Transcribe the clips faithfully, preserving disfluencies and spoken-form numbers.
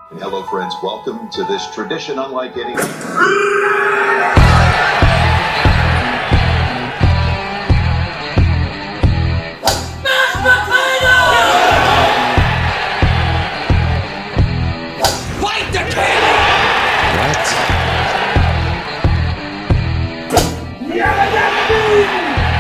Hello, friends. Welcome to this tradition unlike any. Fight the king! What? Yeah, that's me!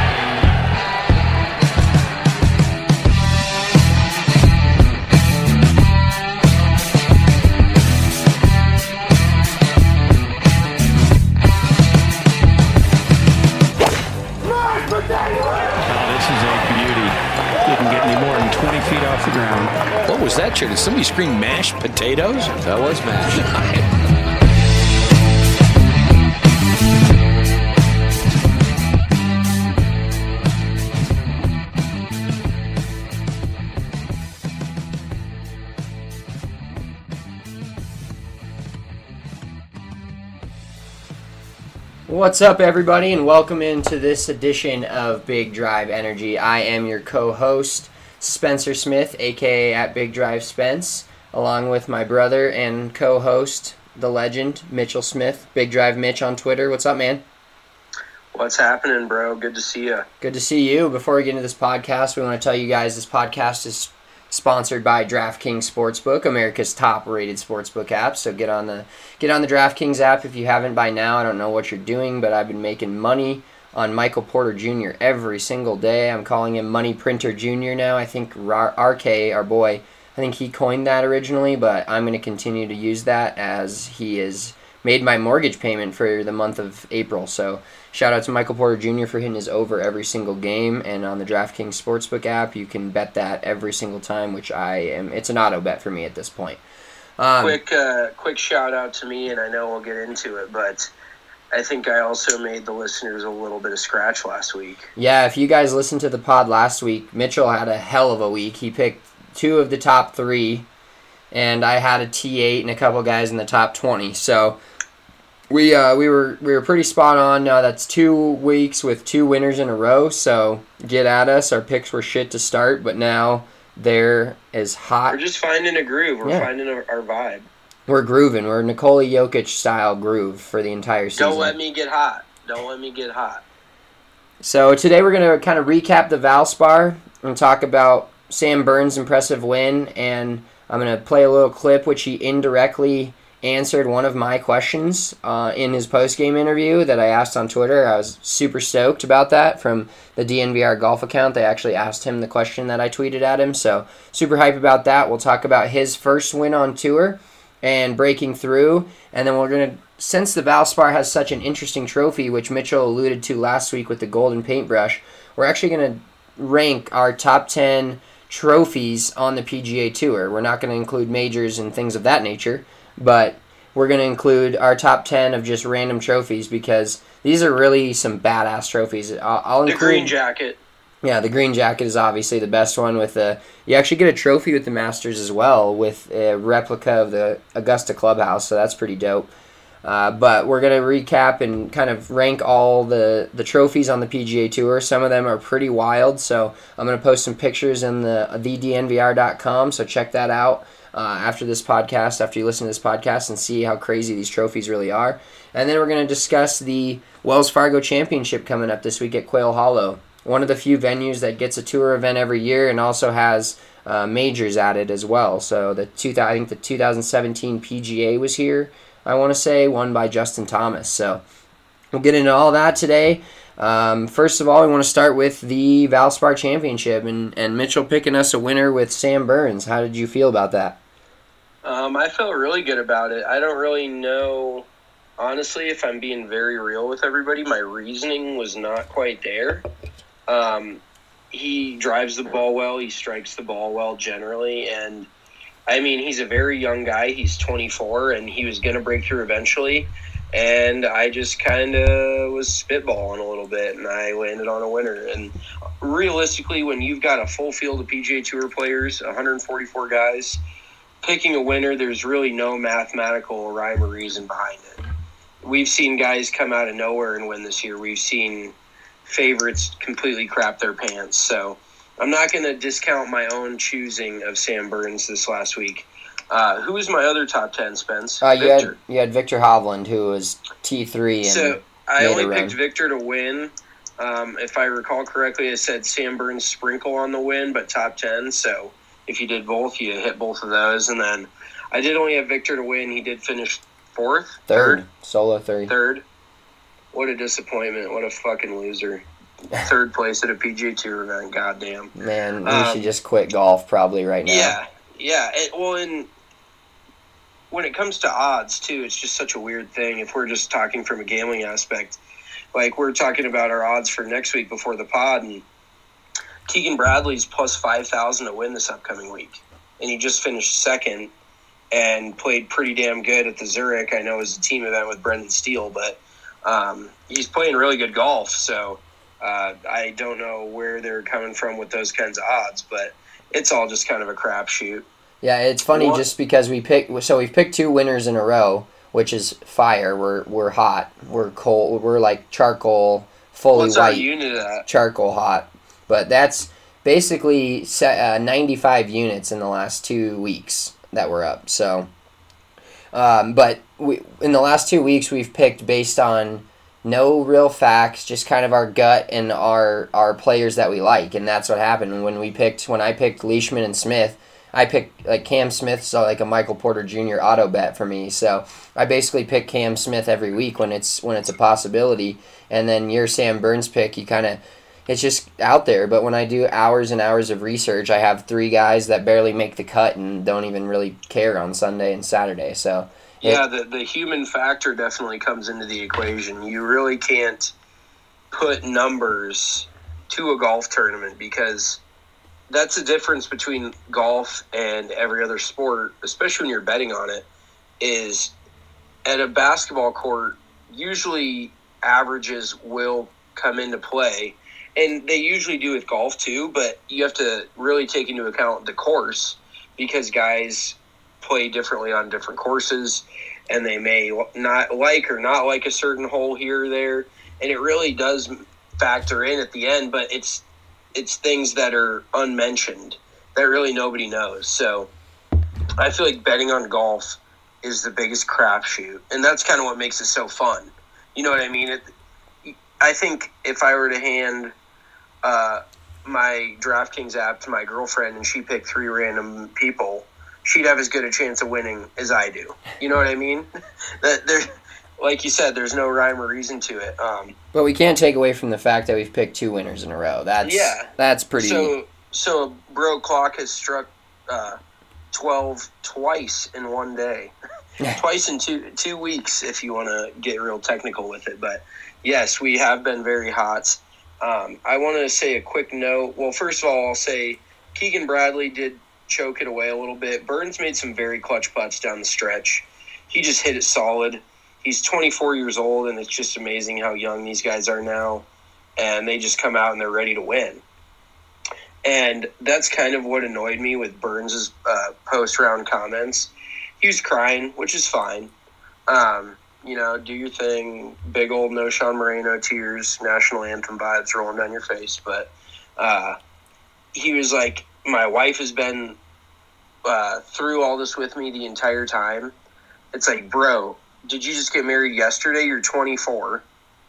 Feet off the ground. What was that, chair? Did somebody scream mashed potatoes? That was mashed. What's up, everybody, and welcome into this edition of Big Drive Energy. I am your co-host, Spencer Smith, aka at Big Drive Spence, along with my brother and co-host, the legend, Mitchell Smith, Big Drive Mitch on Twitter. What's up, man? What's happening, bro? Good to see you. Good to see you. Before we get into this podcast, we want to tell you guys this podcast is sponsored by DraftKings Sportsbook, America's top-rated sportsbook app. So get on the get on the DraftKings app if you haven't by now. I don't know what you're doing, but I've been making money on Michael Porter Junior every single day. I'm calling him Money Printer Junior now. I think R K, our boy, I think he coined that originally, but I'm going to continue to use that as he has made my mortgage payment for the month of April. So shout out to Michael Porter Junior for hitting his over every single game, and on the DraftKings Sportsbook app, you can bet that every single time, which I am, it's an auto bet for me at this point. Um, quick, uh, quick shout out to me, and I know we'll get into it, but I think I also made the listeners a little bit of scratch last week. Yeah, if you guys listened to the pod last week, Mitchell had a hell of a week. He picked two of the top three, and I had a T eight and a couple guys in the top twenty. So we uh, we were we were pretty spot on. Now that's two weeks with two winners in a row. So get at us. Our picks were shit to start, but now they're as hot. We're just finding a groove. We're Yeah. finding our, our vibe. We're grooving. We're Nikola Jokic style groove for the entire season. Don't let me get hot. Don't let me get hot. So today we're going to kind of recap the Valspar and talk about Sam Burns' impressive win, and I'm going to play a little clip which he indirectly answered one of my questions uh, in his post-game interview that I asked on Twitter. I was super stoked about that from the D N V R golf account. They actually asked him the question that I tweeted at him, so super hype about that. We'll talk about his first win on tour and breaking through, and then we're going to, since the Valspar has such an interesting trophy, which Mitchell alluded to last week with the golden paintbrush, we're actually going to rank our top ten trophies on the P G A Tour. We're not going to include majors and things of that nature, but we're going to include our top ten of just random trophies because these are really some badass trophies. I'll, I'll The include, green jacket. Yeah, the green jacket is obviously the best one. With the you actually get a trophy with the Masters as well, with a replica of the Augusta Clubhouse, so that's pretty dope. Uh, but we're going to recap and kind of rank all the, the trophies on the P G A Tour. Some of them are pretty wild, so I'm going to post some pictures in the the D N V R dot com, so check that out uh, after this podcast, after you listen to this podcast, and see how crazy these trophies really are. And then we're going to discuss the Wells Fargo Championship coming up this week at Quail Hollow, one of the few venues that gets a tour event every year and also has uh, majors added as well. So the two, I think the two thousand seventeen P G A was here, I want to say, won by Justin Thomas. So we'll get into all that today. Um, first of all, we want to start with the Valspar Championship, and, and Mitchell picking us a winner with Sam Burns. How did you feel about that? Um, I felt really good about it. I don't really know, honestly, if I'm being very real with everybody, my reasoning was not quite there. Um, he drives the ball well. He strikes the ball well generally. And, I mean, he's a very young guy. He's twenty-four, and he was going to break through eventually. And I just kind of was spitballing a little bit, and I landed on a winner. And realistically, when you've got a full field of P G A Tour players, one hundred forty-four guys, picking a winner, there's really no mathematical rhyme or reason behind it. We've seen guys come out of nowhere and win this year. We've seen favorites completely crap their pants. So I'm not going to discount my own choosing of Sam Burns this last week. Uh, who was my other top ten, Spence? Uh, you Victor. had you had Victor Hovland, who was T three. And so I made only a run. picked Victor to win. Um, if I recall correctly, I said Sam Burns sprinkle on the win, but top ten. So if you did both, you hit both of those. And then I did only have Victor to win. He did finish fourth, third, third. solo third. Third. What a disappointment! What a fucking loser. Third place at a P G A Tour event. Goddamn. Man, we um, should just quit golf probably right now. Yeah, yeah. It, well, and when it comes to odds too, it's just such a weird thing. If we're just talking from a gambling aspect, like we're talking about our odds for next week before the pod, and Keegan Bradley's plus five thousand to win this upcoming week, and he just finished second and played pretty damn good at the Zurich. I know it was a team event with Brendan Steele, but um, he's playing really good golf. So uh, I don't know where they're coming from with those kinds of odds, but it's all just kind of a crapshoot. Yeah, it's funny what? just because we pick. So we've picked two winners in a row, which is fire. We're we're hot. We're cold. We're like charcoal, fully What's white. What's our unit at? Charcoal hot, but that's basically set, uh, ninety-five units in the last two weeks that we're up. So, um, but we in the last two weeks we've picked based on no real facts, just kind of our gut and our our players that we like, and that's what happened when we picked. When I picked Leishman and Smith, I picked like Cam Smith, so like a Michael Porter Junior auto bet for me. So I basically pick Cam Smith every week when it's when it's a possibility, and then your Sam Burns pick, you kind of it's just out there. But when I do hours and hours of research, I have three guys that barely make the cut and don't even really care on Sunday and Saturday. So it, yeah, the the human factor definitely comes into the equation. You really can't put numbers to a golf tournament because that's the difference between golf and every other sport, especially when you're betting on it, is at a basketball court, usually averages will come into play. And they usually do with golf too, but you have to really take into account the course because guys play differently on different courses and they may not like or not like a certain hole here or there. And it really does factor in at the end, but it's it's things that are unmentioned that really nobody knows. So I feel like betting on golf is the biggest crapshoot, and that's kind of what makes it so fun. You know what I mean? It, I think if I were to hand uh, my DraftKings app to my girlfriend and she picked three random people, she'd have as good a chance of winning as I do. You know what I mean? that there. Like you said, there's no rhyme or reason to it. Um, but we can't take away from the fact that we've picked two winners in a row. That's yeah. That's pretty. So, so Bro Clock has struck uh, twelve twice in one day, twice in two two weeks. If you want to get real technical with it, but yes, we have been very hot. Um, I want to say a quick note. Well, first of all, I'll say Keegan Bradley did choke it away a little bit. Burns made some very clutch putts down the stretch. He just hit it solid. He's twenty-four years old, and it's just amazing how young these guys are now. And they just come out and they're ready to win. And that's kind of what annoyed me with Burns' uh, post-round comments. He was crying, which is fine. Um, you know, do your thing. Big old no Sean Moreno tears, national anthem vibes rolling down your face. But uh, he was like, my wife has been uh, through all this with me the entire time. It's like, bro, did you just get married yesterday? You're twenty-four.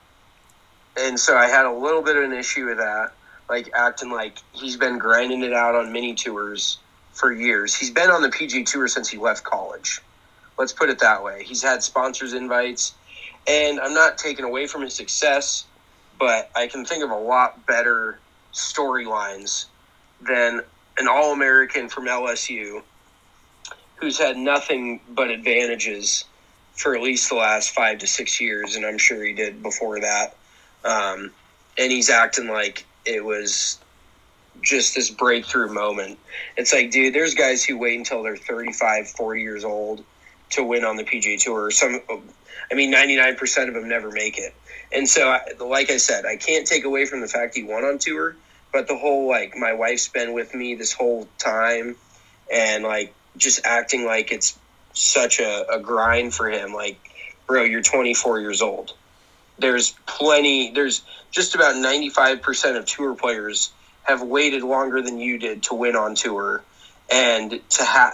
And so I had a little bit of an issue with that, like acting like he's been grinding it out on mini tours for years. He's been on the P G A Tour since he left college. Let's put it that way. He's had sponsors invites, and I'm not taking away from his success, but I can think of a lot better storylines than an All-American from L S U who's had nothing but advantages for at least the last five to six years, and I'm sure he did before that. Um, and he's acting like it was just this breakthrough moment. It's like, dude, there's guys who wait until they're thirty-five, forty years old to win on the P G A Tour. Some, I mean, ninety-nine percent of them never make it. And so, like I said, I can't take away from the fact he won on tour, but the whole, like, my wife's been with me this whole time, and, like, just acting like it's such a, a grind for him. Like, bro, you're twenty-four years old. There's plenty, there's just about ninety-five percent of tour players have waited longer than you did to win on tour. And to have,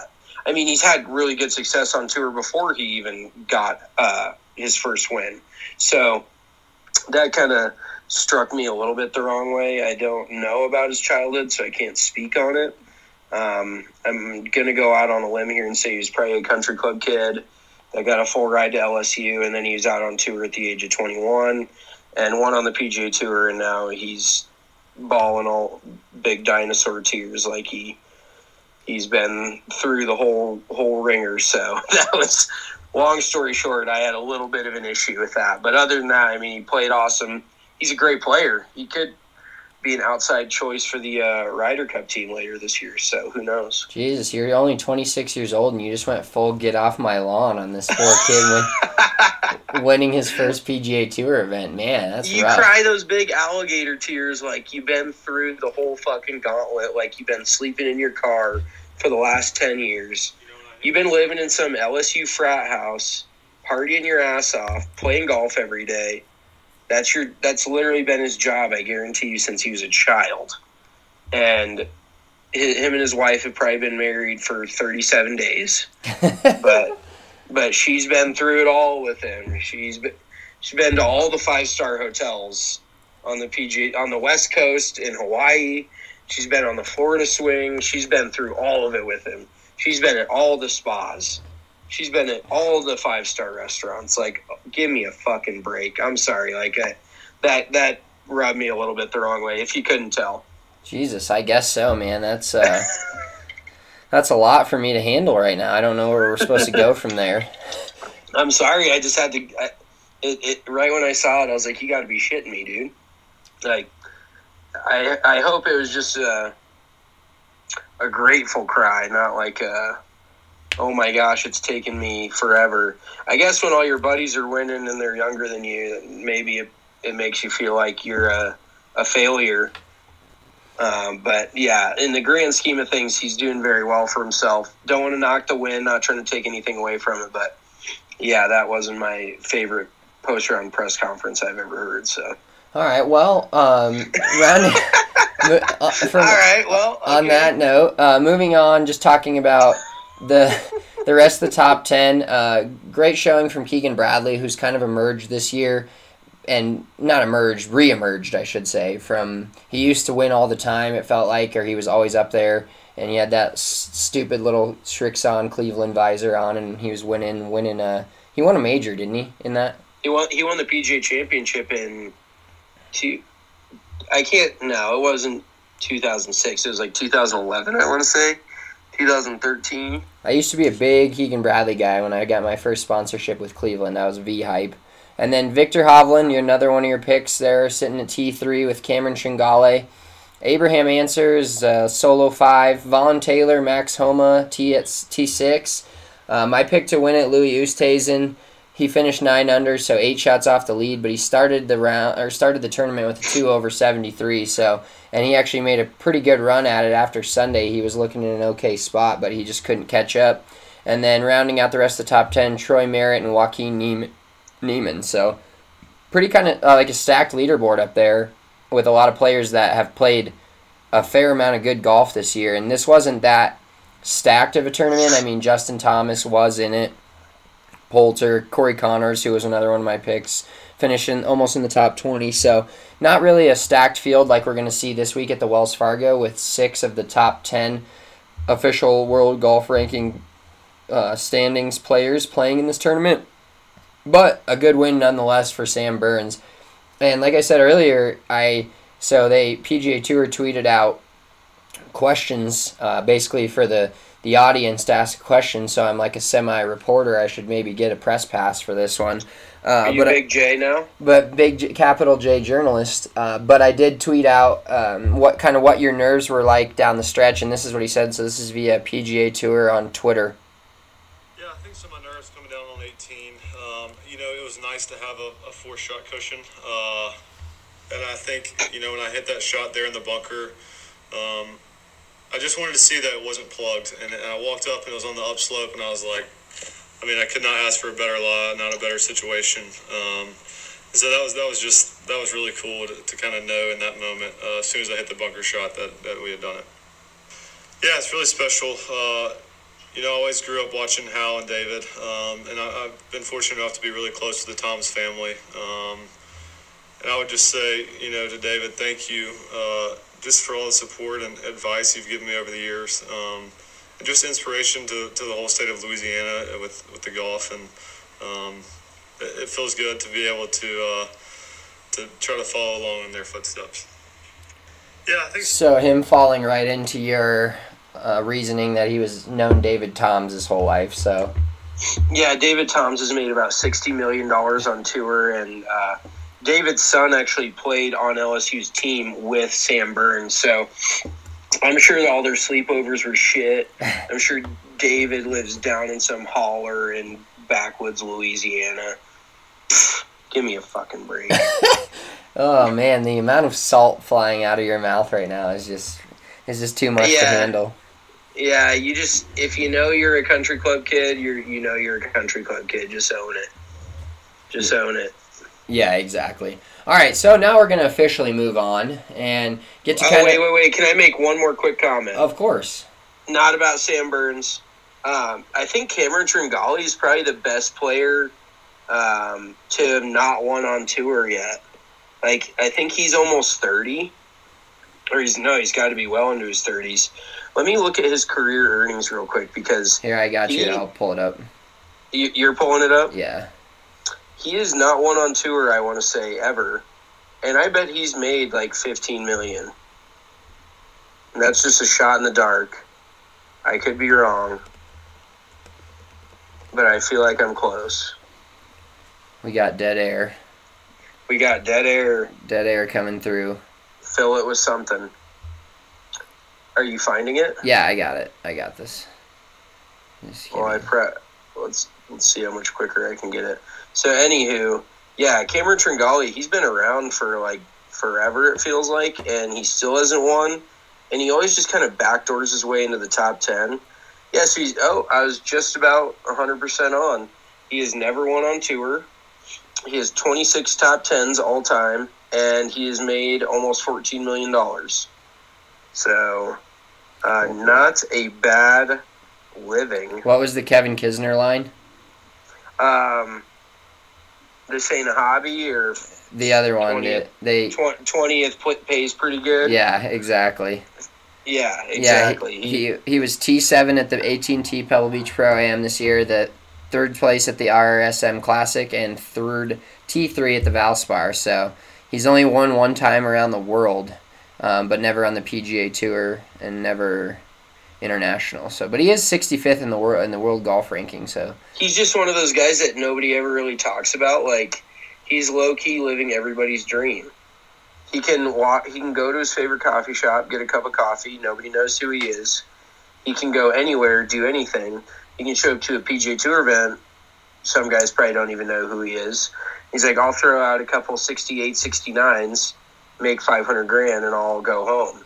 I mean, he's had really good success on tour before he even got uh, his first win. So that kind of struck me a little bit the wrong way. I don't know about his childhood, so I can't speak on it. Um, I'm going to go out on a limb here and say he was probably a country club kid that got a full ride to L S U, and then he was out on tour at the age of twenty-one and won on the P G A Tour, and now he's balling all big dinosaur tears like he he's been through the whole whole ringer. So that was, long story short, I had a little bit of an issue with that. But other than that, I mean, he played awesome. He's a great player. He could be an outside choice for the uh, Ryder Cup team later this year. So who knows? Jesus, you're only twenty-six years old and you just went full get off my lawn on this poor kid win, winning his first P G A Tour event. Man, that's you rough. cry those big alligator tears like you've been through the whole fucking gauntlet, like you've been sleeping in your car for the last ten years. You've been living in some L S U frat house, partying your ass off, playing golf every day. That's your. That's literally been his job, I guarantee you, since he was a child. And him and his wife have probably been married for thirty-seven days. but but she's been through it all with him. She's been she's been to all the five-star hotels on the P G A, on the West Coast, in Hawaii. She's been on the Florida swing. She's been through all of it with him. She's been at all the spas. She's been at all the five-star restaurants. Like, give me a fucking break. I'm sorry. Like, I, that that rubbed me a little bit the wrong way, if you couldn't tell. Jesus, I guess so, man. That's uh, that's a lot for me to handle right now. I don't know where we're supposed to go from there. I'm sorry. I just had to I, it, it, right when I saw it, I was like, you got to be shitting me, dude. Like, I I hope it was just a, a grateful cry, not like a, oh my gosh, it's taken me forever. I guess when all your buddies are winning and they're younger than you, maybe it, it makes you feel like you're a, a failure. Um, but yeah, in the grand scheme of things, he's doing very well for himself. Don't want to knock the win, not trying to take anything away from it, but yeah, that wasn't my favorite post-round press conference I've ever heard. So. All right, well, um, rounding, uh, from, all right, well, okay. On that note, uh, moving on, just talking about the the rest of the top ten. Uh, great showing from Keegan Bradley, who's kind of emerged this year, and not emerged, re-emerged, I should say. From he used to win all the time, it felt like, or he was always up there, and he had that s- stupid little Srixon Cleveland visor on, and he was winning, winning. A, he won a major, didn't he? In that, he won. He won the P G A Championship in. Two, I can't. No, it wasn't two thousand six. It was like two thousand eleven. I want to say two thousand thirteen. I used to be a big Keegan Bradley guy when I got my first sponsorship with Cleveland. That was V-Hype. And then Victor Hovland, you're another one of your picks there, sitting at T three with Cameron Shingale. Abraham Answers, uh, Solo five. Vaughn Taylor, Max Homa, T at T six. Uh, my pick to win it, Louis Oosthuizen. He finished nine under, so eight shots off the lead, but he started the round or started the tournament with a two over seventy-three. So, and he actually made a pretty good run at it after Sunday. He was looking in an okay spot, but he just couldn't catch up. And then rounding out the rest of the top ten, Troy Merritt and Joaquin Niemann. Niemann. So, pretty kind of uh, like a stacked leaderboard up there with a lot of players that have played a fair amount of good golf this year. And this wasn't that stacked of a tournament. I mean, Justin Thomas was in it. Poulter, Corey Connors, who was another one of my picks, finishing almost in the top twenty. So not really a stacked field like we're going to see this week at the Wells Fargo with six of the top ten official World Golf Ranking uh, standings players playing in this tournament. But a good win nonetheless for Sam Burns. And like I said earlier, I so they P G A Tour tweeted out questions uh, basically for the the audience to ask a question, so I'm like a semi-reporter. I should maybe get a press pass for this one. Uh, Are you but Big I, J now? But big J, capital J journalist. Uh, but I did tweet out um, what kind of what your nerves were like down the stretch, and this is what he said. So this is via P G A Tour on Twitter. Yeah, I think some of my nerves coming down on eighteen. Um, you know, it was nice to have a, a four-shot cushion, uh, and I think you know when I hit that shot there in the bunker. Um, I just wanted to see that it wasn't plugged, and, and I walked up and it was on the upslope, and I was like, I mean, I could not ask for a better lie, not a better situation. Um, so that was that was just that was really cool to, to kind of know in that moment, uh, as soon as I hit the bunker shot, that, that we had done it. Yeah, it's really special. Uh, you know, I always grew up watching Hal and David, um, and I, I've been fortunate enough to be really close to the Thomas family. Um, and I would just say, you know, to David, thank you uh, just for all the support and advice you've given me over the years, um, and just inspiration to, to the whole state of Louisiana with, with the golf. And um, it, it feels good to be able to uh, to try to follow along in their footsteps. Yeah, I think so. Him falling right into your uh, reasoning that he was known David Toms his whole life. So yeah, David Toms has made about sixty million dollars on tour, and uh, David's son actually played on L S U's team with Sam Burns. So I'm sure that all their sleepovers were shit. I'm sure David lives down in some holler in backwoods Louisiana. Give me a fucking break. Oh man, the amount of salt flying out of your mouth right now is just is just too much yeah. to handle. Yeah, you just if you know you're a country club kid, you're you know you're a country club kid. Just own it. Just yeah. own it. Yeah, exactly. All right, so now we're gonna officially move on and get to oh, kind of. wait, wait, wait! Can I make one more quick comment? Of course. Not about Sam Burns. Um, I think Cameron Tringali is probably the best player um, to have not won on tour yet. Like, I think he's almost thirty. Or he's, no, he's got to be well into his thirties. Let me look at his career earnings real quick because... Here, I got he, you. I'll pull it up. You, you're pulling it up? Yeah. He has not won on tour, I want to say, ever. And I bet he's made like fifteen million dollars. And that's just a shot in the dark. I could be wrong. But I feel like I'm close. We got dead air. We got dead air. Dead air coming through. Fill it with something. Are you finding it? Yeah, I got it. I got this. Well, I pre- let's let's see how much quicker I can get it. So, anywho, yeah, Cameron Tringali, he's been around for like forever. It feels like, and he still hasn't won. And he always just kind of backdoors his way into the top ten. Yeah, so he's oh, I was just about one hundred percent on. He has never won on tour. He has twenty-six top tens all time, and he has made almost fourteen million dollars. So, uh, not a bad living. What was the Kevin Kisner line? Um, this ain't a hobby, or the other one. twentieth, They twentieth pays pretty good. Yeah, exactly. Yeah, exactly. Yeah, he, he he was T seven at the A T and T Pebble Beach Pro-Am this year. The third place at the R S M Classic and third T three at the Valspar. So he's only won one time around the world, um, but never on the P G A Tour and never international. So, but he is sixty-fifth in the world in the world golf ranking. So he's just one of those guys that nobody ever really talks about. Like, he's low key living everybody's dream. He can walk. He can go to his favorite coffee shop, get a cup of coffee. Nobody knows who he is. He can go anywhere, do anything. He can show up to a P G A Tour event. Some guys probably don't even know who he is. He's like, I'll throw out a couple sixty-eight, sixty-nines, make five hundred grand, and I'll go home.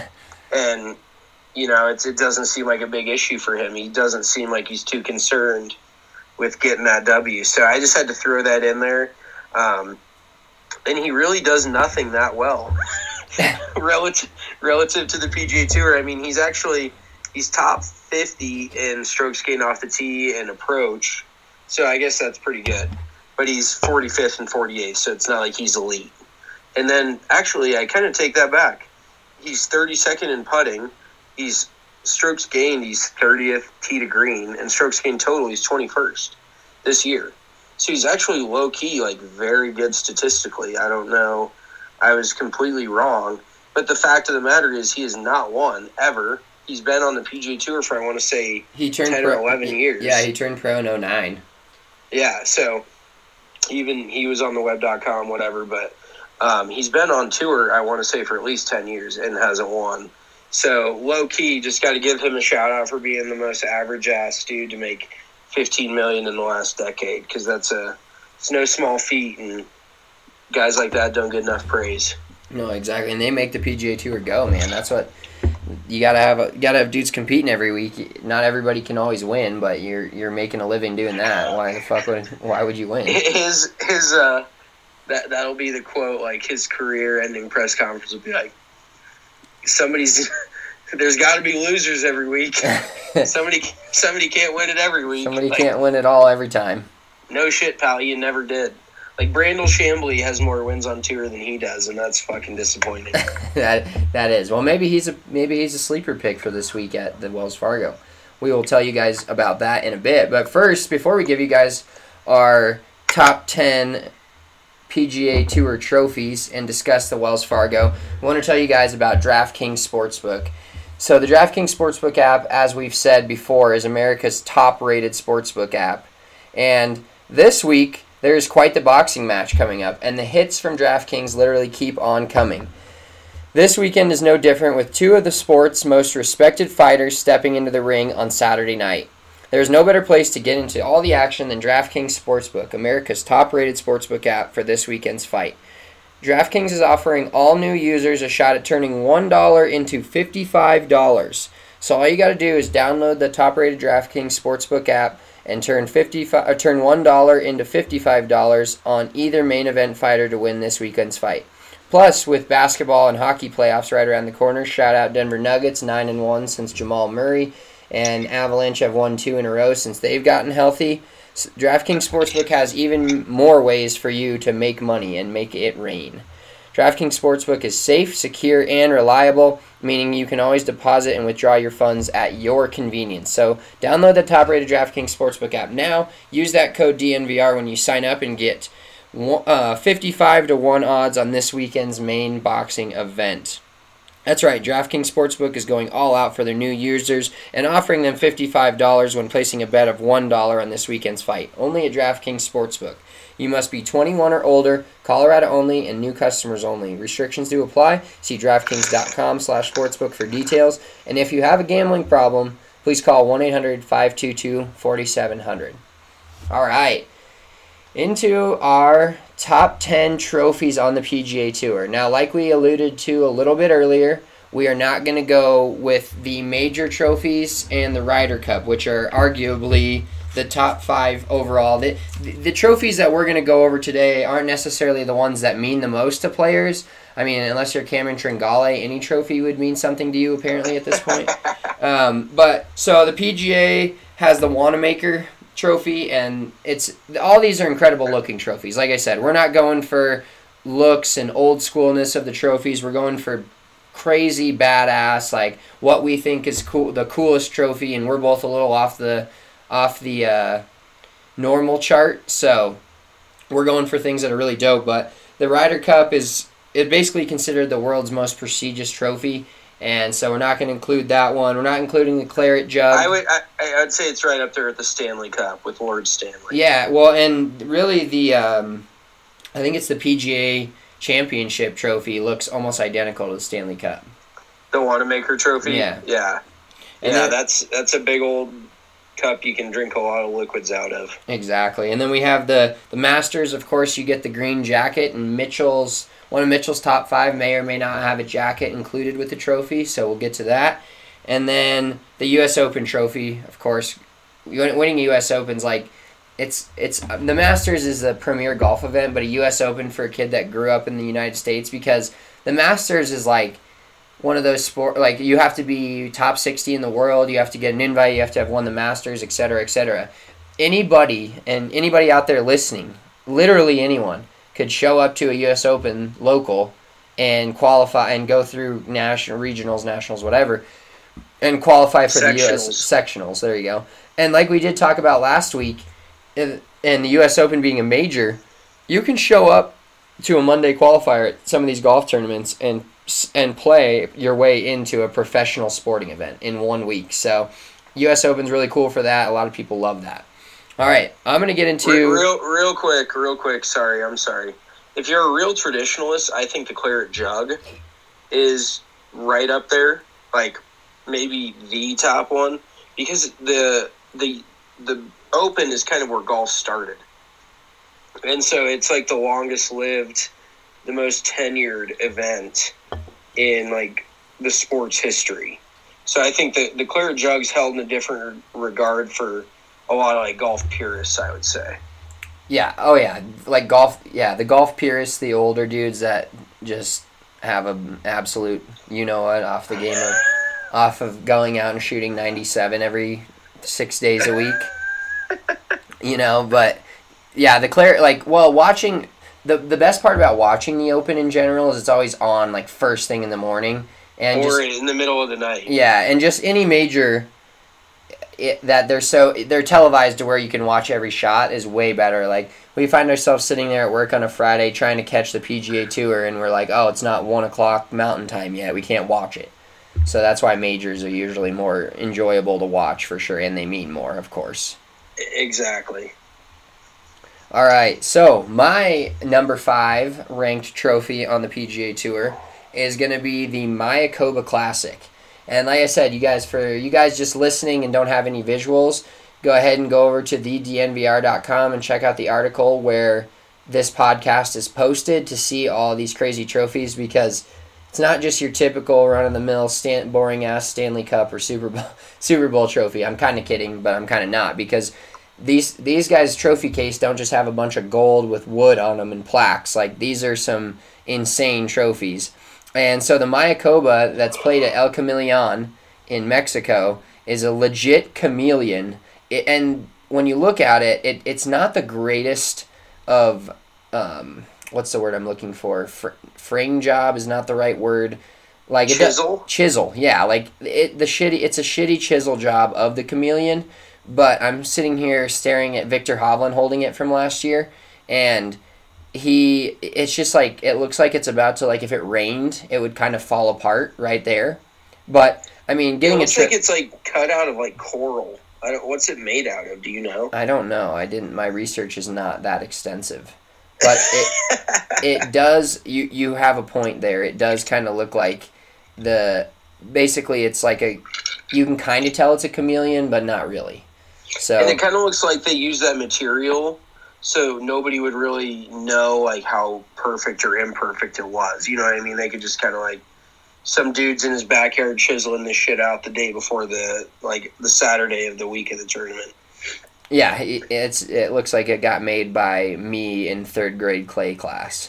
And, you know, it's, it doesn't seem like a big issue for him. He doesn't seem like he's too concerned with getting that W. So I just had to throw that in there. Um, and he really does nothing that well relative relative to the P G A Tour. I mean, he's actually he's top fifty in strokes gained off the tee and approach. So I guess that's pretty good. But he's forty-fifth and forty-eighth, so it's not like he's elite. And then, actually, I kind of take that back. He's thirty-second in putting. He's strokes gained, he's thirtieth tee to green, and strokes gained total, he's twenty-first this year. So he's actually low-key, like, very good statistically. I don't know. I was completely wrong. But the fact of the matter is he has not won, ever. He's been on the P G A Tour for, I want to say, he turned ten pro, or eleven he, years. Yeah, he turned pro in oh nine. Yeah, so even he was on the web dot com, whatever, but um, he's been on tour, I want to say, for at least ten years and hasn't won. So, low-key, just got to give him a shout-out for being the most average-ass dude to make fifteen million dollars in the last decade, because that's a it's no small feat, and guys like that don't get enough praise. No, exactly, and they make the P G A Tour go, man. That's what you gotta have. A, gotta have dudes competing every week. Not everybody can always win, but you're you're making a living doing that. Why the fuck would why would you win? His his uh that that'll be the quote. Like, his career-ending press conference will be like, somebody's there's got to be losers every week. somebody somebody can't win it every week. Somebody Like, can't win it all every time. No shit, pal. You never did. Like, Brandel Chambly has more wins on tour than he does, and that's fucking disappointing. that that is. Well, maybe he's a maybe he's a sleeper pick for this week at the Wells Fargo. We will tell you guys about that in a bit. But first, before we give you guys our top ten P G A Tour trophies and discuss the Wells Fargo, I want to tell you guys about DraftKings Sportsbook. So the DraftKings Sportsbook app, as we've said before, is America's top-rated sportsbook app. And this week, there's quite the boxing match coming up, and the hits from DraftKings literally keep on coming. This weekend is no different, with two of the sport's most respected fighters stepping into the ring on Saturday night. There's no better place to get into all the action than DraftKings Sportsbook, America's top-rated sportsbook app for this weekend's fight. DraftKings is offering all new users a shot at turning one dollar into fifty-five dollars. So all you got to do is download the top-rated DraftKings Sportsbook app and turn fifty-five or turn one dollar into fifty-five dollars on either main event fighter to win this weekend's fight. Plus, with basketball and hockey playoffs right around the corner, shout out Denver Nuggets, nine and one since Jamal Murray, and Avalanche have won two in a row since they've gotten healthy. DraftKings Sportsbook has even more ways for you to make money and make it rain. DraftKings Sportsbook is safe, secure, and reliable, meaning you can always deposit and withdraw your funds at your convenience. So download the top-rated DraftKings Sportsbook app now. Use that code D N V R when you sign up and get uh, fifty-five to one odds on this weekend's main boxing event. That's right, DraftKings Sportsbook is going all out for their new users and offering them fifty-five dollars when placing a bet of one dollar on this weekend's fight. Only at DraftKings Sportsbook. You must be twenty-one or older, Colorado only, and new customers only. Restrictions do apply. See DraftKings.com slash sportsbook for details. And if you have a gambling problem, please call one eight hundred five two two four seven zero zero. All right. Into our top ten trophies on the P G A Tour. Now, like we alluded to a little bit earlier, we are not going to go with the major trophies and the Ryder Cup, which are arguably the top five overall. The, the trophies that we're going to go over today aren't necessarily the ones that mean the most to players. I mean, unless you're Cameron Tringale, any trophy would mean something to you, apparently, at this point. um, but, so the P G A has the Wanamaker trophy, and it's all these are incredible looking trophies. Like I said, we're not going for looks and old schoolness of the trophies. We're going for crazy badass, like what we think is cool, the coolest trophy, and we're both a little off the off the uh, normal chart, so we're going for things that are really dope. But the Ryder Cup is it basically considered the world's most prestigious trophy. And so we're not going to include that one. We're not including the Claret Jug. I would, I, I would say it's right up there with the Stanley Cup with Lord Stanley. Yeah, well, and really the, um, I think it's the P G A Championship trophy looks almost identical to the Stanley Cup. The Wanamaker trophy? Yeah. Yeah. And yeah, then, that's that's a big old cup you can drink a lot of liquids out of. Exactly. And then we have the, the Masters. Of course, you get the green jacket, and Mitchell's one of Mitchell's top five may or may not have a jacket included with the trophy, so we'll get to that. And then the U S Open trophy, of course. Winning a U S Open's like, it's it's the Masters is a premier golf event, but a U S Open for a kid that grew up in the United States, because the Masters is like one of those sport, like you have to be top sixty in the world, you have to get an invite, you have to have won the Masters, et cetera, et cetera. Anybody, and anybody out there listening, literally anyone, could show up to a U S Open local and qualify and go through national, regionals, nationals, whatever, and qualify for the U S sectionals. There you go. And like we did talk about last week, in, in the U S Open being a major, you can show up to a Monday qualifier at some of these golf tournaments and and play your way into a professional sporting event in one week. So U S Open's really cool for that. A lot of people love that. All right, I'm going to get into... Real, real quick, real quick, sorry, I'm sorry. If you're a real traditionalist, I think the Claret Jug is right up there, like maybe the top one, because the the the Open is kind of where golf started. And so it's like the longest lived, the most tenured event in like the sport's history. So I think the, the Claret Jug's held in a different regard for a lot of like golf purists, I would say. Yeah, oh yeah, like golf, yeah, the golf purists, the older dudes that just have an absolute, you know what, off the game of, off of going out and shooting ninety-seven every six days a week. You know, but yeah, the clear like well, watching the the best part about watching the Open in general is it's always on like first thing in the morning and or just, in the middle of the night. Yeah, and just any major it, that they're so they're televised to where you can watch every shot is way better. Like we find ourselves sitting there at work on a Friday trying to catch the P G A Tour, and we're like, oh, it's not one o'clock Mountain Time yet. We can't watch it. So that's why majors are usually more enjoyable to watch for sure, and they mean more, of course. Exactly. All right, so my number five ranked trophy on the P G A Tour is going to be the Mayakoba Classic. And like I said, you guys, for you guys just listening and don't have any visuals, go ahead and go over to the d n v r dot com and check out the article where this podcast is posted to see all these crazy trophies, because it's not just your typical run-of-the-mill, stand, boring-ass Stanley Cup or Super Bowl, Super Bowl trophy. I'm kind of kidding, but I'm kind of not, because these these guys' trophy case don't just have a bunch of gold with wood on them and plaques. Like, these are some insane trophies. And so the Mayakoba that's played at El Chameleon in Mexico is a legit chameleon. It, and when you look at it, it, it's not the greatest of, um, what's the word I'm looking for? Fr- frame job is not the right word. Like it Chisel? Does, chisel, yeah. Like it, the shitty, it's a shitty chisel job of the chameleon. But I'm sitting here staring at Victor Hovland holding it from last year, and he, it's just like, it looks like it's about to, like, if it rained, it would kind of fall apart right there. But, I mean, getting it looks a tri- like it's, like, cut out of, like, coral. I don't, what's it made out of? Do you know? I don't know. I didn't, my research is not that extensive. But it, it does, you, you have a point there. It does kind of look like the, basically it's like a, you can kind of tell it's a chameleon, but not really. So, and it kind of looks like they use that material so nobody would really know, like, how perfect or imperfect it was. You know what I mean? They could just kind of, like, some dude's in his backyard chiseling this shit out the day before the, like, the Saturday of the week of the tournament. Yeah, it's it looks like it got made by me in third grade clay class.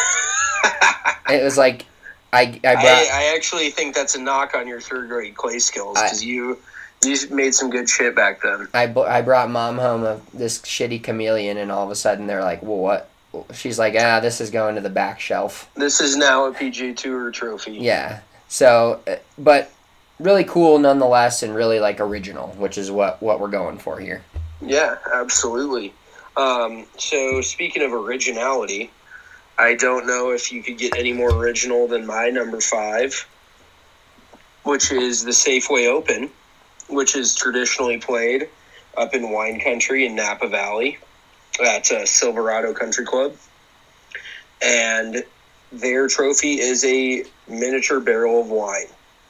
It was like, I I, brought, I I actually think that's a knock on your third grade clay skills, because you... You made some good shit back then. I, I brought mom home a, this shitty chameleon, and all of a sudden they're like, well, what? She's like, ah, this is going to the back shelf. This is now a P G A Tour trophy. Yeah. So, but really cool nonetheless, and really, like, original, which is what, what we're going for here. Yeah, absolutely. Um, so, speaking of originality, I don't know if you could get any more original than my number five, which is the Safeway Open, which is traditionally played up in wine country in Napa Valley at uh, Silverado Country Club. And their trophy is a miniature barrel of wine.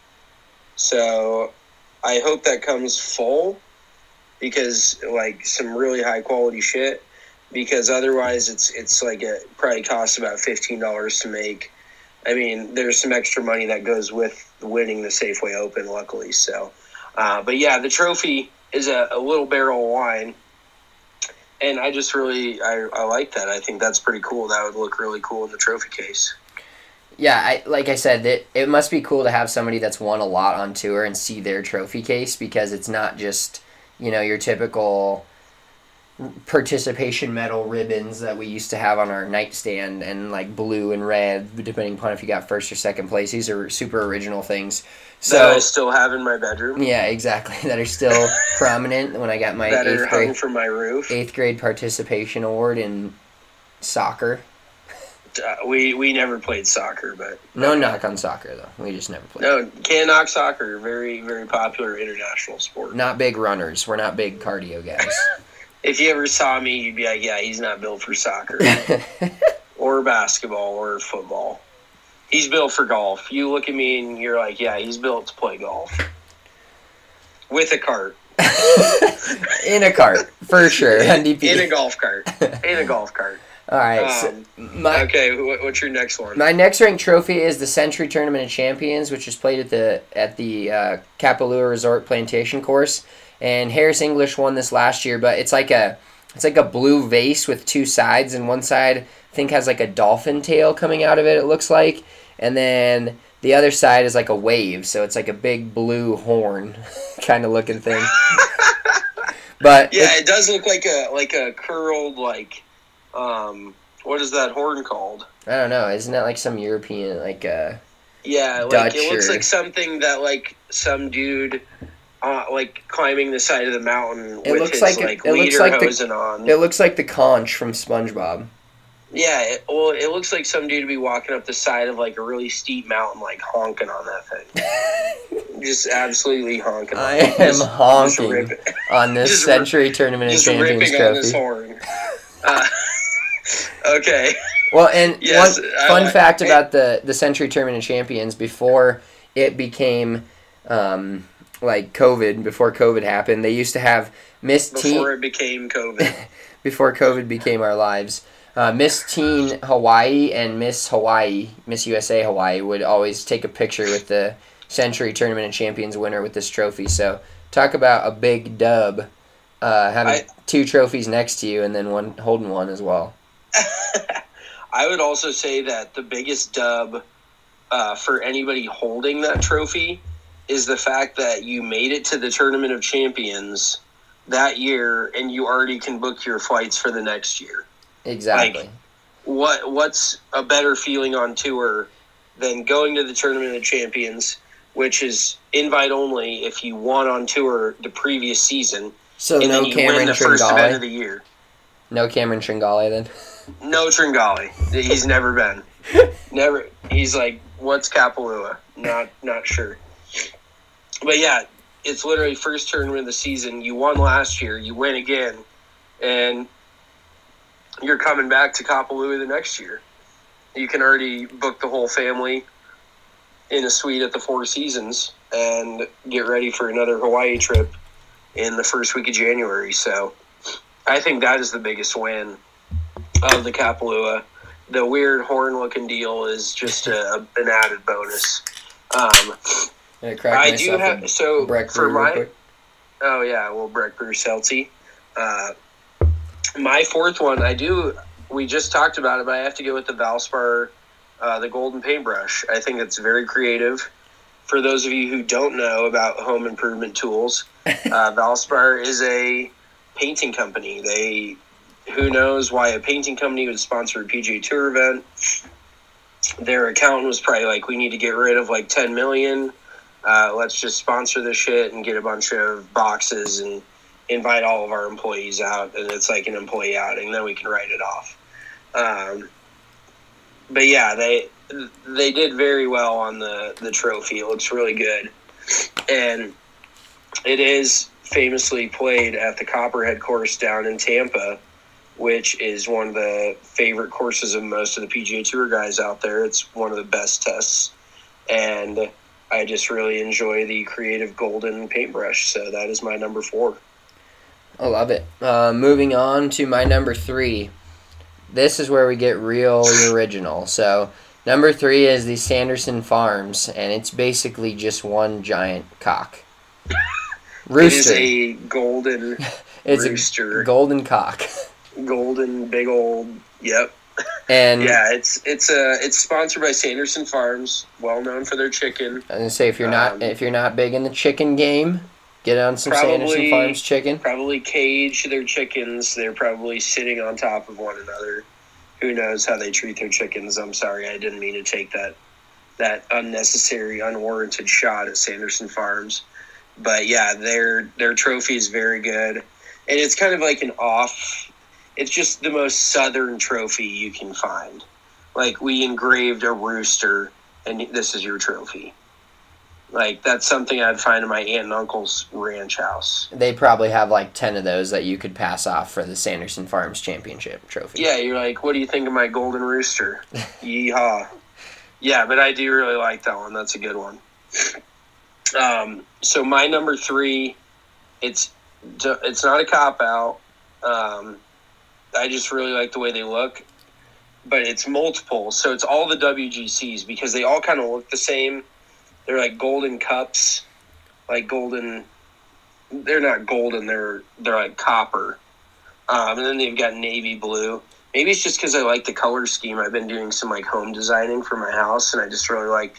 So I hope that comes full, because, like, some really high quality shit, because otherwise it's it's like it probably costs about fifteen dollars to make. I mean, there's some extra money that goes with winning the Safeway Open, luckily, so... Uh, but yeah, the trophy is a, a little barrel of wine, and I just really, I, I like that. I think that's pretty cool. That would look really cool in the trophy case. Yeah, I like I said, it, it must be cool to have somebody that's won a lot on tour and see their trophy case, because it's not just, you know, your typical participation medal ribbons that we used to have on our nightstand, and like blue and red, depending upon if you got first or second place. These are super original things. So, that I still have in my bedroom. Yeah, exactly. That are still prominent when I got my that eighth are hung grade from my roof. Eighth grade participation award in soccer. Uh, we we never played soccer, but no knock on soccer though. We just never played. No, can't knock soccer. Very very popular international sport. Not big runners. We're not big cardio guys. If you ever saw me, you'd be like, yeah, he's not built for soccer or basketball or football. He's built for golf. You look at me and you're like, yeah, he's built to play golf. With a cart. In a cart, for sure. In, N D P. in a golf cart. In a golf cart. All right. Um, so my, okay, what, what's your next one? My next ranked trophy is the Century Tournament of Champions, which is played at the at the uh, Kapalua Resort Plantation Course. And Harris English won this last year, but it's like a it's like a blue vase with two sides, and one side I think has like a dolphin tail coming out of it, it looks like. And then the other side is like a wave, so it's like a big blue horn kind of looking thing. But yeah, it, it does look like a like a curled like um what is that horn called? I don't know. Isn't that like some European like uh Yeah, like Dutch it looks or- like something that like some dude uh, like climbing the side of the mountain It with looks his like like, it, it looks leader like hosing the on. it looks like the conch from SpongeBob. Yeah, it, well, it looks like some dude be walking up the side of like a really steep mountain, like honking on that thing. Just absolutely honking. I on it. am Just- just honking ripping- on this just Century Tournament of just Champions ripping on this trophy. horn. Uh, okay. Well, and Yes, one I fun like- fact it- about the the Century Tournament of Champions before it became um, like COVID, before COVID happened, they used to have Miss Before Teen it became COVID. before COVID became our lives. Uh, Miss Teen Hawaii and Miss Hawaii, Miss U S A Hawaii would always take a picture with the Century Tournament of Champions winner with this trophy. So talk about a big dub, uh, having I- two trophies next to you and then one holding one as well. I would also say that the biggest dub uh, for anybody holding that trophy is the fact that you made it to the Tournament of Champions that year and you already can book your flights for the next year. Exactly. Like, what what's a better feeling on tour than going to the Tournament of Champions, which is invite only if you won on tour the previous season, so and no then you Cameron win the first event of Tringale. the year. No Cameron Tringale then. No Tringali. He's never been. Never. He's like, what's Kapalua? Not not sure. But yeah, it's literally first tournament of the season. You won last year. You win again, and you're coming back to Kapalua the next year. You can already book the whole family in a suite at the Four Seasons and get ready for another Hawaii trip in the first week of January. So I think that is the biggest win of the Kapalua. The weird horn-looking deal is just a, an added bonus. Um, I, crack I do myself have a so Breck for brew real my quick. oh yeah, well Breck Brew Seltzy. Uh, my fourth one, I do. We just talked about it, but I have to go with the Valspar, uh, the Golden Paintbrush. I think it's very creative. For those of you who don't know about home improvement tools, uh, Valspar is a painting company. They, who knows why a painting company would sponsor a P G A Tour event? Their accountant was probably like, we need to get rid of like ten million. Uh, let's just sponsor this shit and get a bunch of boxes and invite all of our employees out. And it's like an employee outing. Then we can write it off. Um, but yeah, they they did very well on the, the trophy. It looks really good. And it is famously played at the Copperhead course down in Tampa, which is one of the favorite courses of most of the P G A Tour guys out there. It's one of the best tests. And I just really enjoy the creative golden paintbrush. So that is my number four. I love it. Uh, moving on to my number three. This is where we get real original. So number three is the Sanderson Farms, and it's basically just one giant cock. Rooster. It is a golden it's rooster. a golden cock. golden, big old, yep. And Yeah, it's it's uh it's sponsored by Sanderson Farms, well known for their chicken. I was gonna say if you're not Um, if you're not big in the chicken game, get on some Probably- Sanderson Farms chicken. Probably cage their chickens. They're probably sitting on top of one another. Who knows how they treat their chickens? I'm sorry, I didn't mean to take that that unnecessary, unwarranted shot at Sanderson Farms. But yeah, their their trophy is very good, and it's kind of like an off. It's just the most southern trophy you can find. Like, we engraved a rooster, and this is your trophy. Like, that's something I'd find in my aunt and uncle's ranch house. They probably have like ten of those that you could pass off for the Sanderson Farms Championship trophy. Yeah, you're like, what do you think of my golden rooster? Yeehaw. Yeah, but I do really like that one. That's a good one. Um, so my number three, it's it's not a cop-out. Um, I just really like the way they look. But it's multiple. So it's all the W G Cs because they all kind of look the same. They're like golden cups. Like golden... They're not golden. They're they're like copper. Um, and then they've got navy blue. Maybe it's just because I like the color scheme. I've been doing some like home designing for my house, and I just really like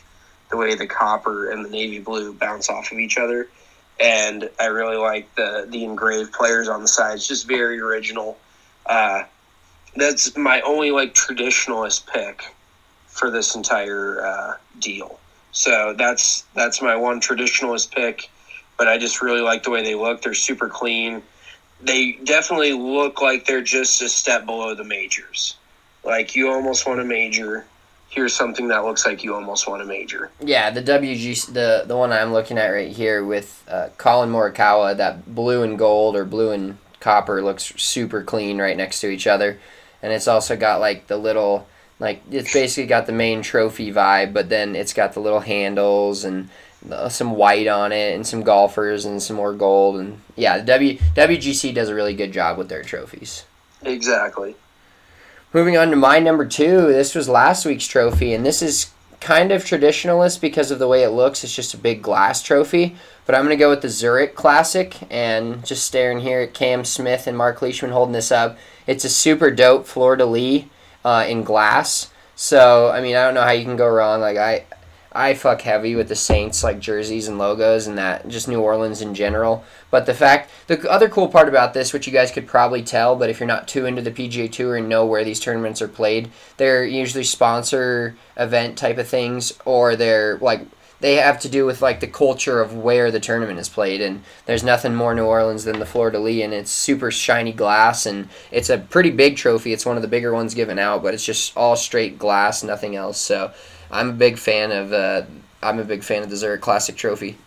the way the copper and the navy blue bounce off of each other. And I really like the, the engraved players on the sides, just very original. Uh, that's my only like traditionalist pick for this entire uh, deal. So that's that's my one traditionalist pick, but I just really like the way they look. They're super clean. They definitely look like they're just a step below the majors. Like you almost want a major. Here's something that looks like you almost want a major. Yeah, the W G C, the the one I'm looking at right here with uh, Colin Morikawa, that blue and gold or blue and copper looks super clean right next to each other, and it's also got like the little. Like, it's basically got the main trophy vibe, but then it's got the little handles and some white on it and some golfers and some more gold. And, yeah, the w, W G C does a really good job with their trophies. Exactly. Moving on to my number two, this was last week's trophy, and this is kind of traditionalist because of the way it looks. It's just a big glass trophy. But I'm going to go with the Zurich Classic, and just staring here at Cam Smith and Mark Leishman holding this up. It's a super dope fleur-de-lis. Uh, in glass, so I mean I don't know how you can go wrong. Like I, I fuck heavy with the Saints like jerseys and logos and that just New Orleans in general. But the fact, the other cool part about this, which you guys could probably tell, but if you're not too into the P G A Tour and know where these tournaments are played, they're usually sponsor event type of things, or they're like they have to do with like the culture of where the tournament is played. And there's nothing more New Orleans than the fleur-de-lis, and it's super shiny glass, and it's a pretty big trophy. It's one of the bigger ones given out, but it's just all straight glass, nothing else. So I'm a big fan of uh, I'm a big fan of the Zurich Classic trophy.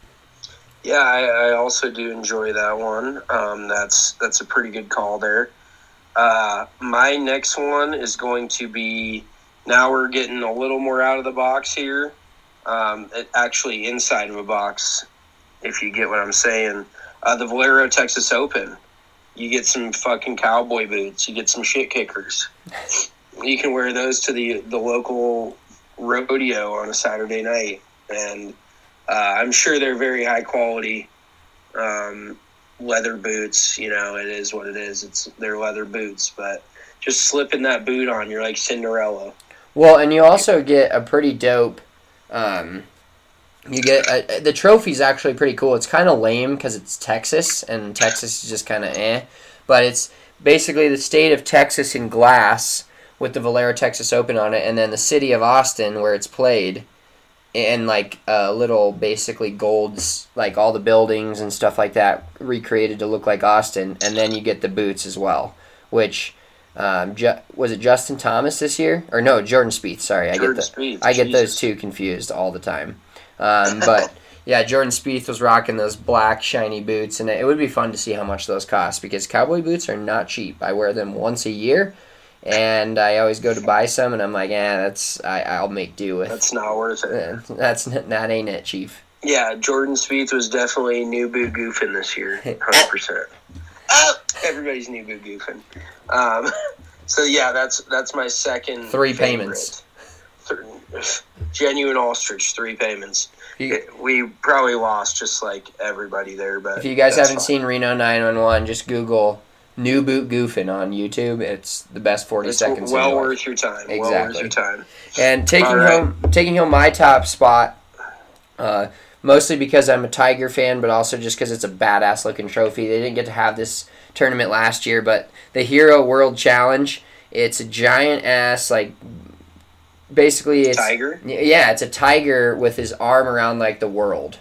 Yeah, I, I also do enjoy that one. Um, that's that's a pretty good call there. Uh, my next one is going to be, now we're getting a little more out of the box here. Um, it, actually inside of a box, if you get what I'm saying. Uh, the Valero Texas Open. You get some fucking cowboy boots. You get some shit kickers. You can wear those to the, the local rodeo on a Saturday night. And uh, I'm sure they're very high quality um, leather boots. You know, it is what it is. It's they're leather boots. But just slipping that boot on, you're like Cinderella. Well, and you also get a pretty dope... Um, you get a, the trophy's actually pretty cool. It's kind of lame because it's Texas, and Texas is just kind of eh. But it's basically the state of Texas in glass with the Valero Texas Open on it, and then the city of Austin where it's played, and like a uh, little basically golds, like all the buildings and stuff like that recreated to look like Austin, and then you get the boots as well, which. Um, Ju- was it Justin Thomas this year? Or no, Jordan Spieth, sorry. Jordan I get the, Spieth, I get Jesus. those two confused all the time. Um, but, yeah, Jordan Spieth was rocking those black, shiny boots, and it would be fun to see how much those cost, because cowboy boots are not cheap. I wear them once a year, and I always go to buy some, and I'm like, eh, that's, I, I'll make do with. That's not worth it. That's, that ain't it, Chief. Yeah, Jordan Spieth was definitely new boot goofing this year, one hundred percent. Oh, everybody's new boot goofing. Um, so yeah, that's that's my second. Three favorite. payments. Th- genuine ostrich, three payments. You, It, we probably lost just like everybody there, but if you guys that's haven't fine. seen Reno nine one one, just Google New Boot Goofing on YouTube. It's the best forty It's seconds. well of your life. worth your time. Exactly. Well worth your time. And taking All right. home taking home my top spot, uh, mostly because I'm a Tiger fan, but also just because it's a badass looking trophy. They didn't get to have this tournament last year, but the Hero World Challenge, it's a giant ass, like, basically it's... Tiger? Yeah, it's a tiger with his arm around, like, the world.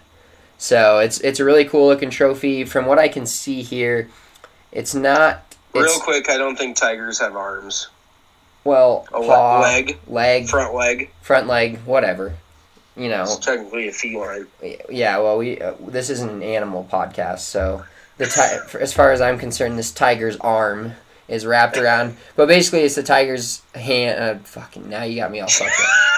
So it's it's a really cool looking trophy. From what I can see here, it's not... Real It's, quick, I don't think tigers have arms. well, A le- paw, leg? leg, Front leg. front leg, whatever. You know. It's technically a feline. Yeah, well, we uh, this isn't an animal podcast, so the ti- as far as I'm concerned, this tiger's arm is wrapped around. But basically, it's the tiger's hand. Uh, fucking now you got me all fucked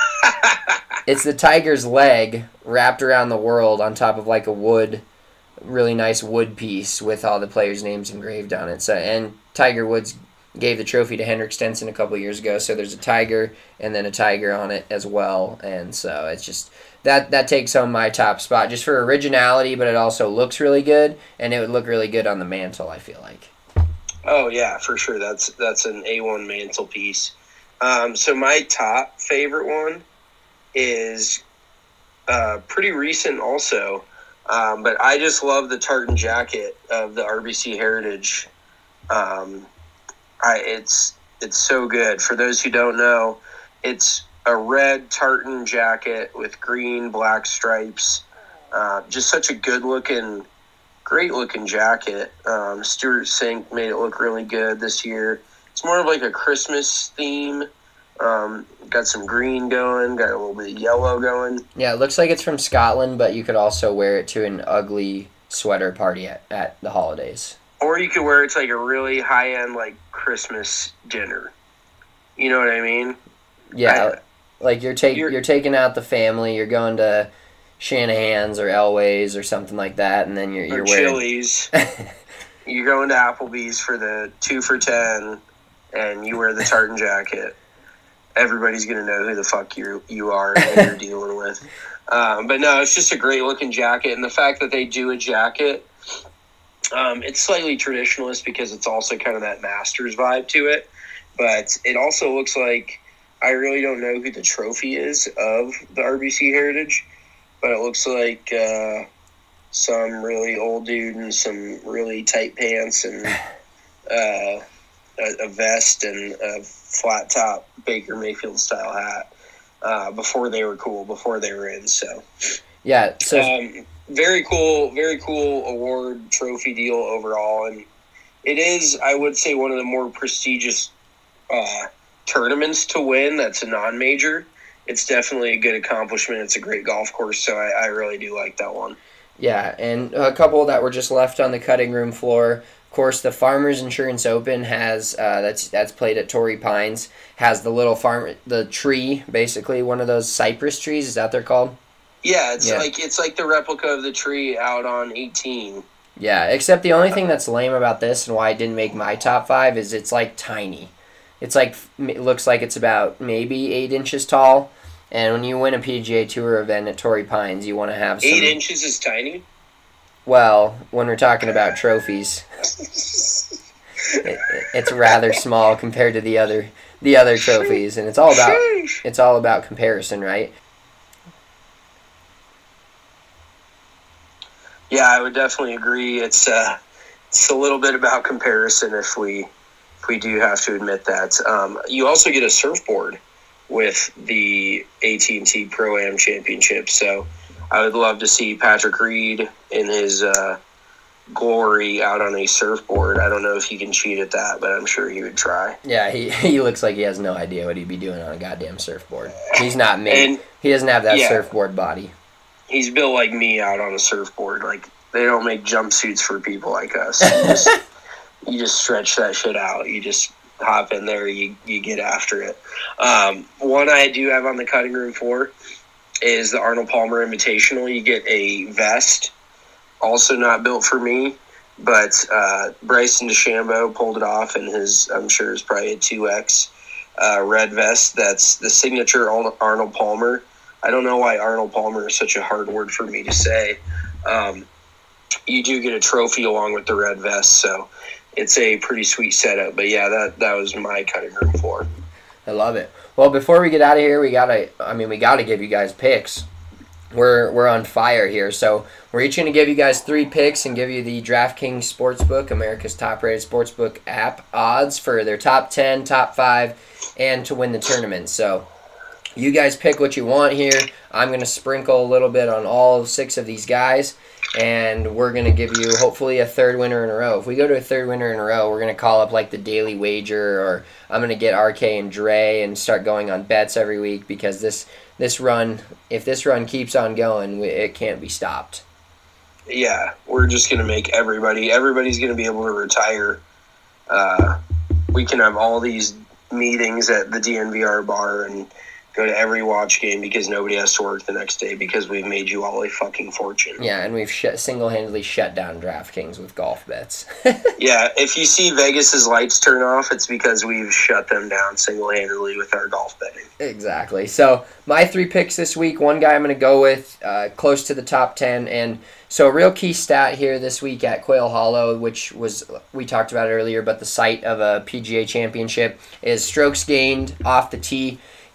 up. It's the tiger's leg wrapped around the world on top of like a wood, really nice wood piece with all the players' names engraved on it. So and Tiger Woods gave the trophy to Henrik Stenson a couple years ago, so there's a tiger and then a tiger on it as well, and so it's just that that takes home my top spot just for originality, but it also looks really good, and it would look really good on the mantle, I feel like. Oh yeah, for sure. That's that's an A one mantelpiece. Um, so my top favorite one is uh, pretty recent also. Um, but I just love the tartan jacket of the R B C Heritage. Um, I, it's it's so good. For those who don't know, it's a red tartan jacket with green, black stripes. Uh, just such a good-looking, great-looking jacket. Um, Stuart Sink made it look really good this year. It's more of like a Christmas theme. Um, got some green going, got a little bit of yellow going. Yeah, it looks like it's from Scotland, but you could also wear it to an ugly sweater party at, at the holidays. Or you could wear it to like a really high-end like Christmas dinner. You know what I mean? Yeah, I, like you're, take, you're you're taking out the family, you're going to Shanahan's or Elway's or something like that, and then you're, you're or wearing... Chili's. You're going to Applebee's for the two for ten, and you wear the tartan jacket. Everybody's going to know who the fuck you you are and who you're dealing with. Um, but no, it's just a great looking jacket. And the fact that they do a jacket, um, it's slightly traditionalist because it's also kind of that Masters vibe to it. But it also looks like, I really don't know who the trophy is of the R B C Heritage, but it looks like uh, some really old dude in some really tight pants and uh, a, a vest and a flat top Baker Mayfield style hat uh, before they were cool, before they were in. So yeah, so um, very cool, very cool award trophy deal overall, and it is, I would say, one of the more prestigious uh, tournaments to win. That's a non-major. It's definitely a good accomplishment. It's a great golf course, so I, I really do like that one. Yeah, and a couple that were just left on the cutting room floor. Of course, the Farmers Insurance Open has uh, that's that's played at Torrey Pines, has the little farm the tree, basically one of those cypress trees. Is that what they're called? Yeah, it's Yeah. like it's like the replica of the tree out on eighteen. Yeah, except the only thing that's lame about this and why it didn't make my top five is it's like tiny. It's like it looks like it's about maybe eight inches tall. And when you win a P G A Tour event at Torrey Pines, you want to have some... Eight inches is tiny? Well, when we're talking about trophies, it, it's rather small compared to the other the other trophies, and it's all about it's all about comparison, right? Yeah, I would definitely agree. It's uh, it's a little bit about comparison if we if we do have to admit that. Um, you also get a surfboard with the A T and T Pro-Am Championship. So I would love to see Patrick Reed in his uh, glory out on a surfboard. I don't know if he can cheat at that, but I'm sure he would try. Yeah, he, he looks like he has no idea what he'd be doing on a goddamn surfboard. He's not made. And, he doesn't have that yeah. surfboard body. He's built like me out on a surfboard. Like, they don't make jumpsuits for people like us. You just, you just stretch that shit out. You just hop in there, you you get after it. Um, one I do have on the cutting room floor is the Arnold Palmer Invitational. You get a vest, also not built for me, but uh, Bryson DeChambeau pulled it off in his, I'm sure it's probably a two X uh, red vest. That's the signature Arnold Palmer. I don't know why Arnold Palmer is such a hard word for me to say. Um, you do get a trophy along with the red vest, so it's a pretty sweet setup. But yeah, that that was my cutting room floor. I love it. Well, before we get out of here, we gotta. I mean, we gotta give you guys picks. We're we're on fire here, so we're each gonna give you guys three picks and give you the DraftKings Sportsbook, America's top-rated sportsbook app, odds for their top ten, top five, and to win the tournament. So you guys pick what you want here. I'm gonna sprinkle a little bit on all six of these guys, and we're going to give you hopefully a third winner in a row. If we go to a third winner in a row, we're going to call up like the Daily Wager, or I'm going to get R K and Dre and start going on bets every week, because this this run, if this run keeps on going, it can't be stopped. Yeah, we're just going to make everybody, everybody's going to be able to retire. Uh, we can have all these meetings at the D N V R bar and go to every watch game because nobody has to work the next day because we've made you all a fucking fortune. Yeah, and we've sh- single-handedly shut down DraftKings with golf bets. Yeah, if you see Vegas's lights turn off, it's because we've shut them down single-handedly with our golf betting. Exactly. So my three picks this week, one guy I'm going to go with uh, close to the top ten. And so a real key stat here this week at Quail Hollow, which was, we talked about it earlier, but the site of a P G A championship, is strokes gained off the tee.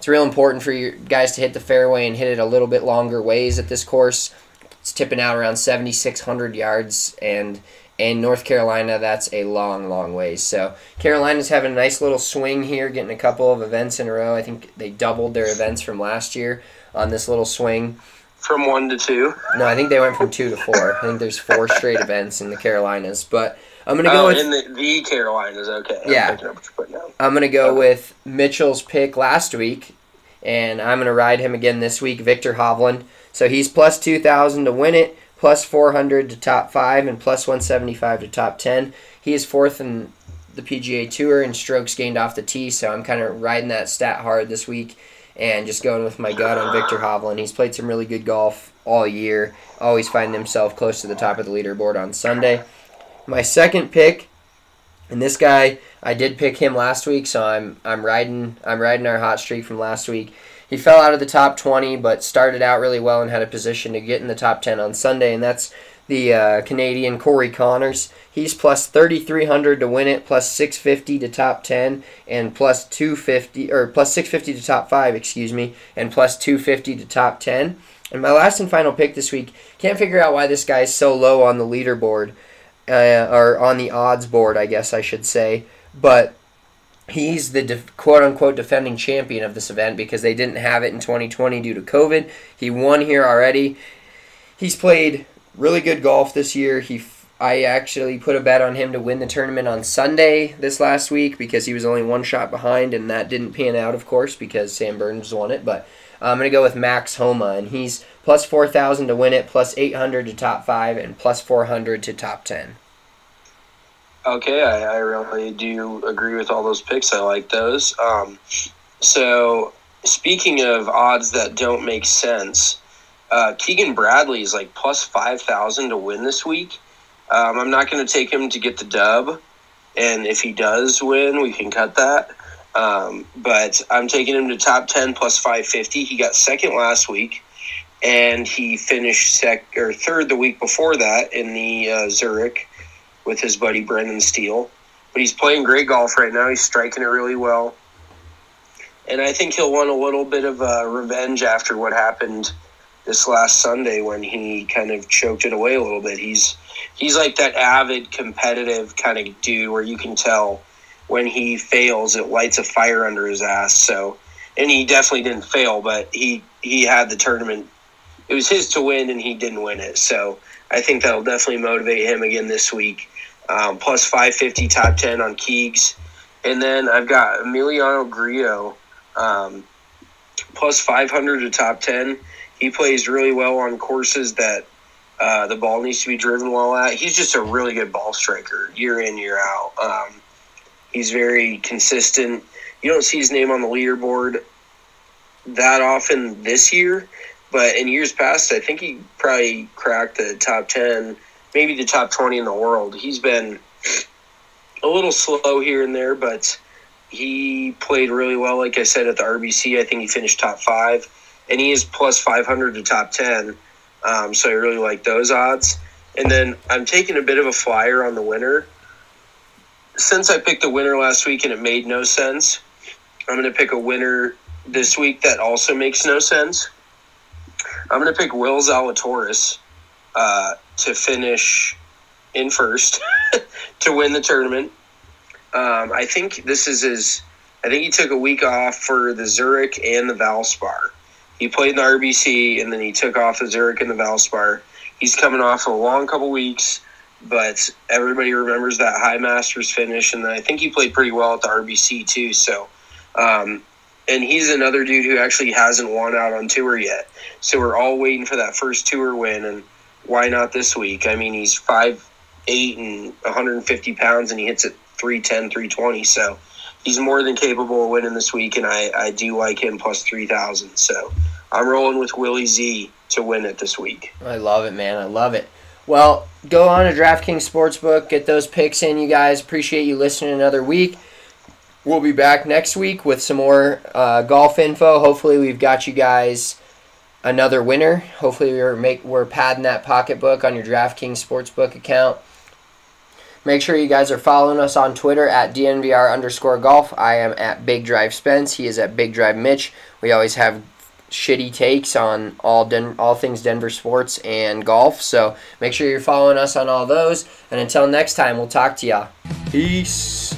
it's real important for you guys to hit the fairway and hit it a little bit longer ways at this course. It's tipping out around seventy-six hundred yards, and in North Carolina, that's a long, long ways. So Carolina's having a nice little swing here, getting a couple of events in a row. I think they doubled their events from last year on this little swing. From one to two? No, I think they went from two to four. I think there's four straight events in the Carolinas. But I'm going to go oh, with... in the, the Carolinas, okay. Yeah. I'm picking up what you're putting down. I'm going to go okay. with Mitchell's pick last week, and I'm going to ride him again this week, Viktor Hovland. So he's plus two thousand to win it, plus four hundred to top five, and plus one seventy-five to top ten. He is fourth in the P G A Tour in strokes gained off the tee, so I'm kind of riding that stat hard this week and just going with my gut on Viktor Hovland. He's played some really good golf all year, always finding himself close to the top of the leaderboard on Sunday. My second pick, and this guy, I did pick him last week, so I'm I'm riding I'm riding our hot streak from last week. He fell out of the top twenty, but started out really well and had a position to get in the top ten on Sunday, and that's the uh, Canadian Corey Connors. He's plus thirty-three hundred to win it, plus six fifty to top ten, and plus two fifty or plus six fifty to top five, excuse me, and plus two fifty to top ten. And my last and final pick this week, can't figure out why this guy's so low on the leaderboard, uh, or on the odds board, I guess I should say, but he's the def- quote-unquote defending champion of this event because they didn't have it in twenty twenty due to COVID. He won here already. He's played really good golf this year. He, f- I actually put a bet on him to win the tournament on Sunday this last week because he was only one shot behind, and that didn't pan out, of course, because Sam Burns won it. But I'm going to go with Max Homa, and he's plus four thousand to win it, plus eight hundred to top five, and plus four hundred to top ten. Okay, I, I really do agree with all those picks. I like those. Um, so, speaking of odds that don't make sense, uh, Keegan Bradley is like plus five thousand to win this week. Um, I'm not going to take him to get the dub, and if he does win, we can cut that. Um, but I'm taking him to top ten plus five fifty. He got second last week, and he finished sec or third the week before that in the uh, Zurich with his buddy Brendan Steele. But he's playing great golf right now. He's striking it really well. And I think he'll want a little bit of uh, revenge after what happened this last Sunday when he kind of choked it away a little bit. He's he's like that avid, competitive kind of dude where you can tell when he fails, it lights a fire under his ass. So, and he definitely didn't fail, but he, he had the tournament. It was his to win, and he didn't win it. So I think that'll definitely motivate him again this week. Um, plus five fifty top ten on Keegs. And then I've got Emiliano Grillo, um, plus five hundred to top ten. He plays really well on courses that uh, the ball needs to be driven well at. He's just a really good ball striker year in, year out. Um, he's very consistent. You don't see his name on the leaderboard that often this year, but in years past, I think he probably cracked the top ten, maybe the top twenty in the world. He's been a little slow here and there, but he played really well, like I said, at the R B C. I think he finished top five, and he is plus five hundred to top ten, um, so I really like those odds. And then I'm taking a bit of a flyer on the winner. Since I picked the winner last week and it made no sense, I'm going to pick a winner this week that also makes no sense. I'm going to pick Will Zalatoris uh, to finish in first to win the tournament. Um, I think this is his – I think he took a week off for the Zurich and the Valspar. He played in the R B C, and then he took off the Zurich and the Valspar. He's coming off a long couple weeks, but everybody remembers that High Masters finish, and I think he played pretty well at the R B C too. So, um, and he's another dude who actually hasn't won out on tour yet. So we're all waiting for that first tour win, and why not this week? I mean, he's five eight and one hundred fifty pounds, and he hits it three ten, three twenty. So he's more than capable of winning this week, and I, I do like him plus three thousand. So I'm rolling with Willie Z to win it this week. I love it, man. I love it. Well, go on to DraftKings Sportsbook. Get those picks in, you guys. Appreciate you listening another week. We'll be back next week with some more uh, golf info. Hopefully we've got you guys another winner. Hopefully we're make we're padding that pocketbook on your DraftKings Sportsbook account. Make sure you guys are following us on Twitter at D N V R underscore golf. I am at Big Drive Spence. He is at Big Drive Mitch. We always have shitty takes on all Den- all things Denver sports and golf. So make sure you're following us on all those. And until next time, we'll talk to y'all. Peace.